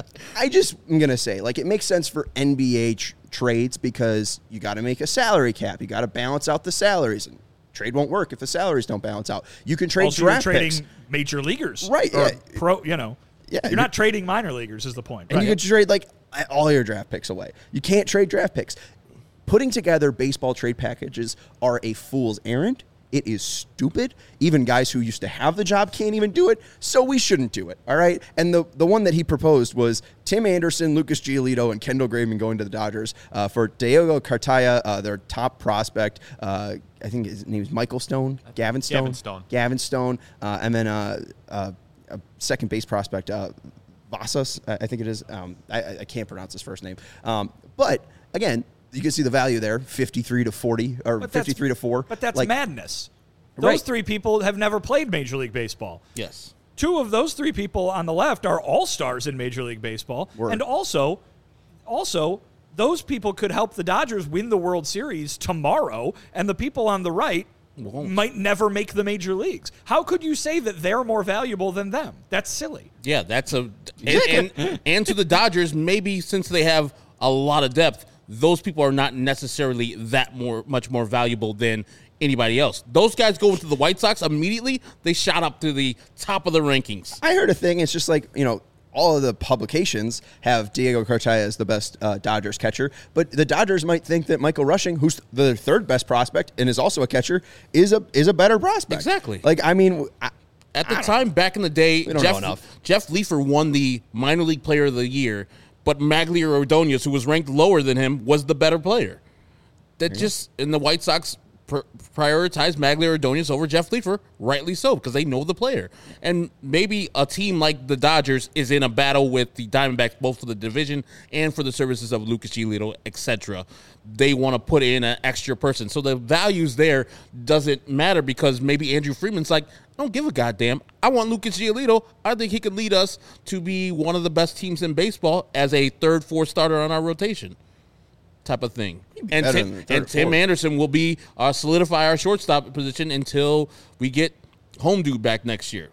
I just am going to say, like, it makes sense for N B A tr- trades because you got to make a salary cap. You got to balance out the salaries. And trade won't work if the salaries don't balance out. You can trade also, you're draft trading picks. major leaguers. Right, Or yeah. pro, you know. Yeah, You're you're- not trading minor leaguers is the point. And Right. you can trade, like, all your draft picks away. You can't trade draft picks. Putting together baseball trade packages are a fool's errand. It is stupid. Even guys who used to have the job can't even do it, so we shouldn't do it, all right? And the, the one that he proposed was Tim Anderson, Lucas Giolito, and Kendall Graveman going to the Dodgers uh, for Diego Cartaya, uh, their top prospect. Uh, I think his name is Michael Stone, Gavin Stone. Gavin Stone. Gavin Stone. Uh, and then uh, uh, a second base prospect, uh, Vasas, I I think it is. Um, I, I can't pronounce his first name. Um, but, again, you can see the value there, fifty-three to forty, or But that's- fifty-three to four. But that's like, madness. Those Right. three people have never played Major League Baseball. Yes. Two of those three people on the left are all-stars in Major League Baseball. Word. And also, also, those people could help the Dodgers win the World Series tomorrow, and the people on the right Won't. might never make the major leagues. How could you say that they're more valuable than them? That's silly. Yeah, that's a and, and and to the Dodgers, maybe since they have a lot of depth, those people are not necessarily that more much more valuable than anybody else. Those guys go into the White Sox immediately, they shot up to the top of the rankings. I heard a thing. It's just like, you know, all of the publications have Diego Cartaya as the best uh, Dodgers catcher, but the Dodgers might think that Michael Rushing, who's the third best prospect and is also a catcher, is a is a better prospect. Exactly. Like, I mean, I, At the time, back in the day, don't know Jeff, enough. Jeff Leafer won the minor league player of the year, but Maglier Ordonez, who was ranked lower than him, was the better player. That just, and the White Sox pr- prioritized Maglier Ordonez over Jeff Leafer, rightly so, because they know the player. And maybe a team like the Dodgers is in a battle with the Diamondbacks, both for the division and for the services of Lucas Giolito, et cetera. They want to put in an extra person. So the values there doesn't matter because maybe Andrew Freeman's like, I don't give a goddamn. I want Lucas Giolito. I think he could lead us to be one of the best teams in baseball as a third, fourth starter on our rotation type of thing. And better Tim, than the third and or Tim fourth. Anderson will be uh, solidify our shortstop position until we get home dude back next year.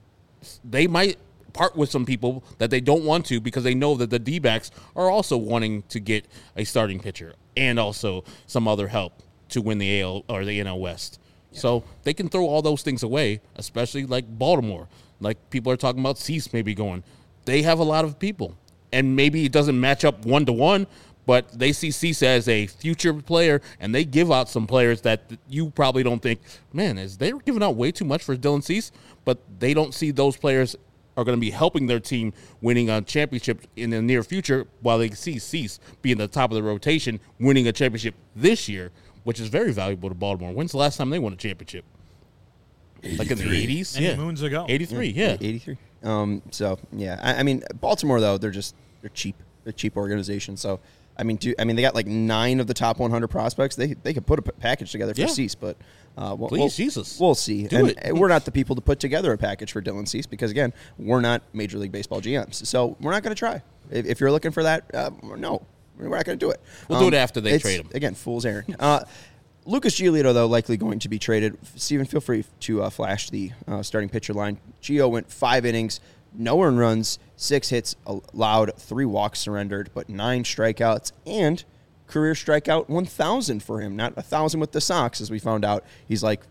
They might part with some people that they don't want to because they know that the D-backs are also wanting to get a starting pitcher and also some other help to win the A L or the N L West. So they can throw all those things away, especially like Baltimore. Like people are talking about Cease maybe going. They have a lot of people. And maybe it doesn't match up one-to-one, but they see Cease as a future player, and they give out some players that you probably don't think, man, is they giving out way too much for Dylan Cease? But they don't see those players are going to be helping their team winning a championship in the near future, while they see Cease being the top of the rotation, winning a championship this year, which is very valuable to Baltimore. When's the last time they won a championship? Like in the eighties? Many Yeah. moons ago. eighty-three, yeah. eighty-three. Um, so yeah, I, I mean, Baltimore though, they're just they're cheap, they're a cheap organization. So I mean, do I mean they got like nine of the top one hundred prospects. They they could put a p- package together for Yeah. Cease, but uh, we'll, Please, we'll, Jesus. we'll see. Do and it. we're not the people to put together a package for Dylan Cease because again, we're not Major League Baseball G Ms, so we're not going to try. If, if you're looking for that, uh, no, we're not going to do it. We'll do it after they it's, trade him. Again, fool's errand. Uh, Lucas Giolito, though, likely going to be traded. Steven, feel free to uh, flash the uh, starting pitcher line. Gio went five innings, no earned runs, six hits allowed, three walks surrendered, but nine strikeouts, and career strikeout one thousand for him. Not one thousand with the Sox, as we found out. He's like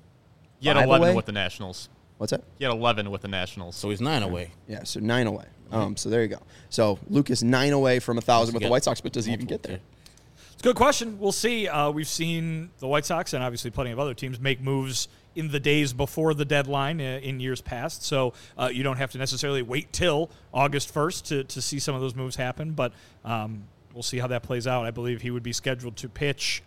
He had five eleven away? with the Nationals. What's that? He had eleven with the Nationals. So he's nine away. Yeah, so nine away. Um, so there you go. So Lucas nine away from one thousand with the Get White Sox, but does he even get there? It's a good question. We'll see. Uh, we've seen the White Sox and obviously plenty of other teams make moves in the days before the deadline uh, in years past. So uh, you don't have to necessarily wait till August first to, to see some of those moves happen. But um, we'll see how that plays out. I believe he would be scheduled to pitch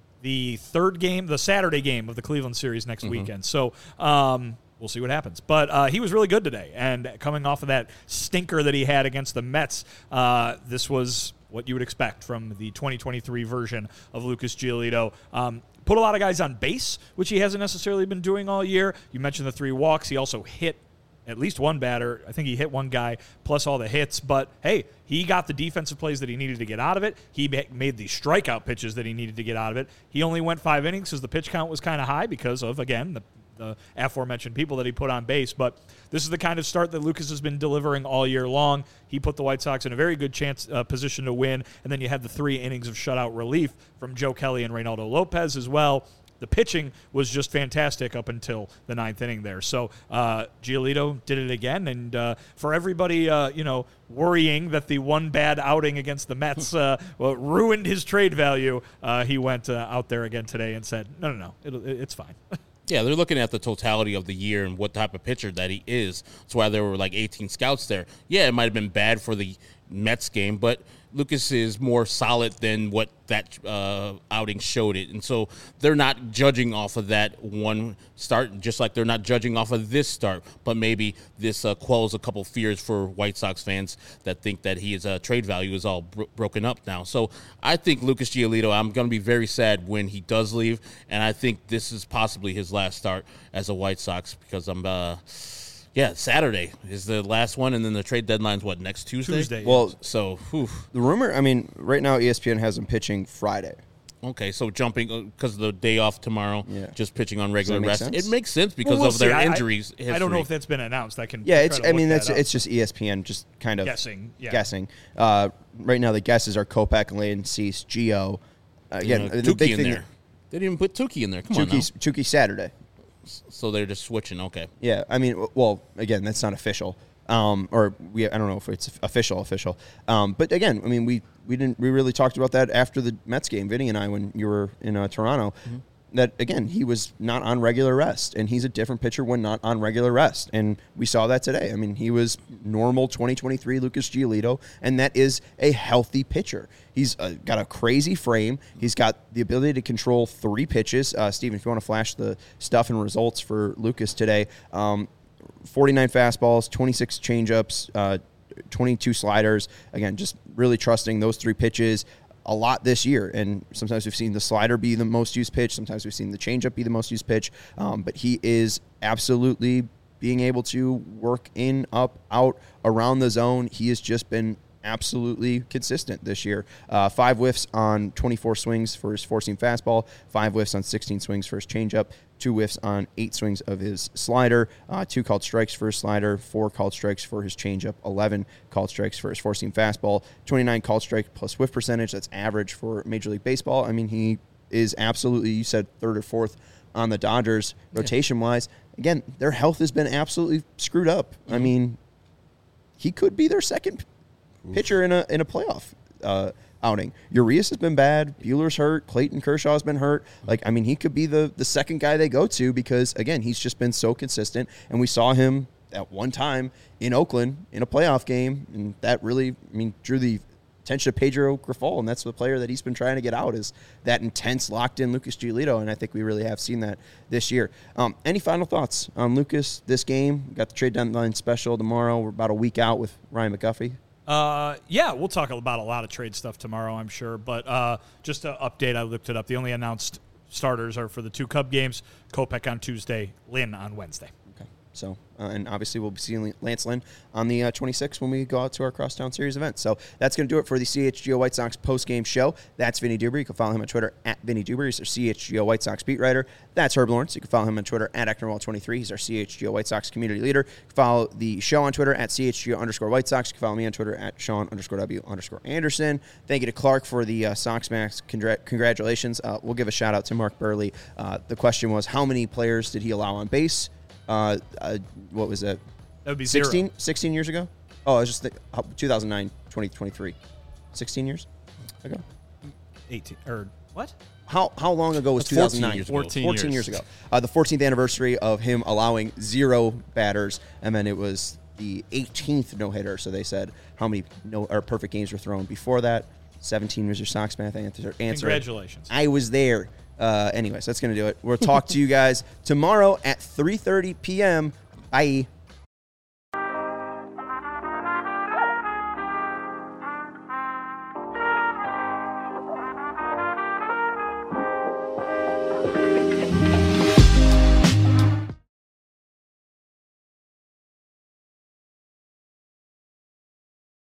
the third game, the Saturday game of the Cleveland series next Mm-hmm. weekend. So um, we'll see what happens. But uh, he was really good today. And coming off of that stinker that he had against the Mets, uh, this was what you would expect from the twenty twenty-three version of Lucas Giolito. Um, put a lot of guys on base, which he hasn't necessarily been doing all year. You mentioned the three walks. He also hit at least one batter. I think he hit one guy plus all the hits. But, hey, he got the defensive plays that he needed to get out of it. He made the strikeout pitches that he needed to get out of it. He only went five innings because the pitch count was kind of high because of, again, the the aforementioned people that he put on base. But this is the kind of start that Lucas has been delivering all year long. He put the White Sox in a very good chance uh, position to win, and then you had the three innings of shutout relief from Joe Kelly and Reynaldo Lopez as well. The pitching was just fantastic up until the ninth inning there. So uh, Giolito did it again, and uh, for everybody, uh, you know, worrying that the one bad outing against the Mets uh, well, ruined his trade value, uh, he went uh, out there again today and said, no, no, no, it'll, it's fine. Yeah, they're looking at the totality of the year and what type of pitcher that he is. That's why there were like eighteen scouts there. Yeah, it might have been bad for the Mets game, but Lucas is more solid than what that uh, outing showed it. And so they're not judging off of that one start, just like they're not judging off of this start. But maybe this uh, quells a couple fears for White Sox fans that think that his uh, trade value is all bro- broken up now. So I think Lucas Giolito, I'm going to be very sad when he does leave. And I think this is possibly his last start as a White Sox because I'm uh, – yeah, Saturday is the last one, and then the trade deadline's what, next Tuesday? Tuesday. Well, So, whew. the rumor, I mean, right now E S P N has him pitching Friday. Okay, so jumping because of the day off tomorrow, Yeah. just pitching on regular make rest. sense? It makes sense because Well, we'll of their see. I- I- injuries. I, don't know history. if that's been announced. I can Yeah, try it's. to I look mean, that that's up. it's just E S P N, just kind of Guessing, yeah. Guessing. Uh, right now, the guesses are Kopech, Lane, Cease, Gio. Uh, again, You know, the Tukey big in thing. there. They didn't even put Tukey in there. Come on now. Tukey's, Tukey Saturday. So they're just switching. Okay. Yeah, I mean, w- well, again, that's not official. Um, or we, I don't know if it's official, official. Um, but again, I mean, we, we didn't, we really talked about that after the Mets game, Vinny and I, when you were in uh, Toronto. Mm-hmm. That again, he was not on regular rest, and he's a different pitcher when not on regular rest, and we saw that today. I mean, he was normal twenty twenty-three Lucas Giolito, and that is a healthy pitcher. He's uh, got a crazy frame. He's got the ability to control three pitches. Uh, Steven, if you want to flash the stuff and results for Lucas today, um, forty-nine fastballs, twenty-six changeups, uh, twenty-two sliders. Again, just really trusting those three pitches a lot this year, and sometimes we've seen the slider be the most used pitch, sometimes we've seen the changeup be the most used pitch, um, but he is absolutely being able to work in, up, out, around the zone. He has just been absolutely consistent this year. Uh, five whiffs on twenty-four swings for his four-seam fastball, five whiffs on sixteen swings for his changeup, two whiffs on eight swings of his slider, uh, two called strikes for his slider, four called strikes for his changeup, eleven called strikes for his four-seam fastball, twenty-nine called strike plus whiff percentage. That's average for Major League Baseball. I mean, he is absolutely, you said third or fourth on the Dodgers rotation-wise. Again, their health has been absolutely screwed up. Mm-hmm. I mean, he could be their second Oof. pitcher in a in a playoff uh, outing. Urias has been bad. Buehler's hurt. Clayton Kershaw's been hurt. Like, I mean, he could be the, the second guy they go to because, again, he's just been so consistent. And we saw him at one time in Oakland in a playoff game, and that really, I mean, drew the attention of Pedro Grifol, and that's the player that he's been trying to get out is that intense, locked-in Lucas Giolito, and I think we really have seen that this year. Um, any final thoughts on Lucas, this game? We got the trade deadline special tomorrow. We're about a week out with Ryan McGuffey. Uh, yeah, we'll talk about a lot of trade stuff tomorrow, I'm sure. But uh, just to update, I looked it up. The only announced starters are for the two Cub games, Kopech on Tuesday, Lynn on Wednesday. Okay. So, uh, and obviously we'll be seeing Lance Lynn on the uh, twenty-sixth when we go out to our Crosstown Series event. So that's going to do it for the C H G O White Sox post-game show. That's Vinny Duber. You can follow him on Twitter at Vinny Duber. He's our C H G O White Sox beat writer. That's Herb Lawrence. You can follow him on Twitter at Ecknerwall twenty-three. He's our C H G O White Sox community leader. You can follow the show on Twitter at C H G O underscore White Sox. You can follow me on Twitter at Sean underscore W underscore Anderson. Thank you to Clark for the uh, Sox Max. Congr- congratulations. Uh, we'll give a shout out to Mark Burley. Uh, the question was, how many players did he allow on base? Uh, uh, what was it? That would be sixteen, zero. sixteen years ago? Oh, I was just th- two thousand nine, twenty twenty-three. sixteen years ago? eighteen. Or what? How how long ago was That's two thousand nine? fourteen years ago. fourteen, fourteen years. years ago. Uh, the fourteenth anniversary of him allowing zero batters, and then it was the eighteenth no-hitter. So they said how many no or perfect games were thrown before that. seventeen was your Sox math answer. answer. Congratulations. I was there. Uh, anyways, that's going to do it. We'll talk to you guys tomorrow at three thirty p.m. Bye.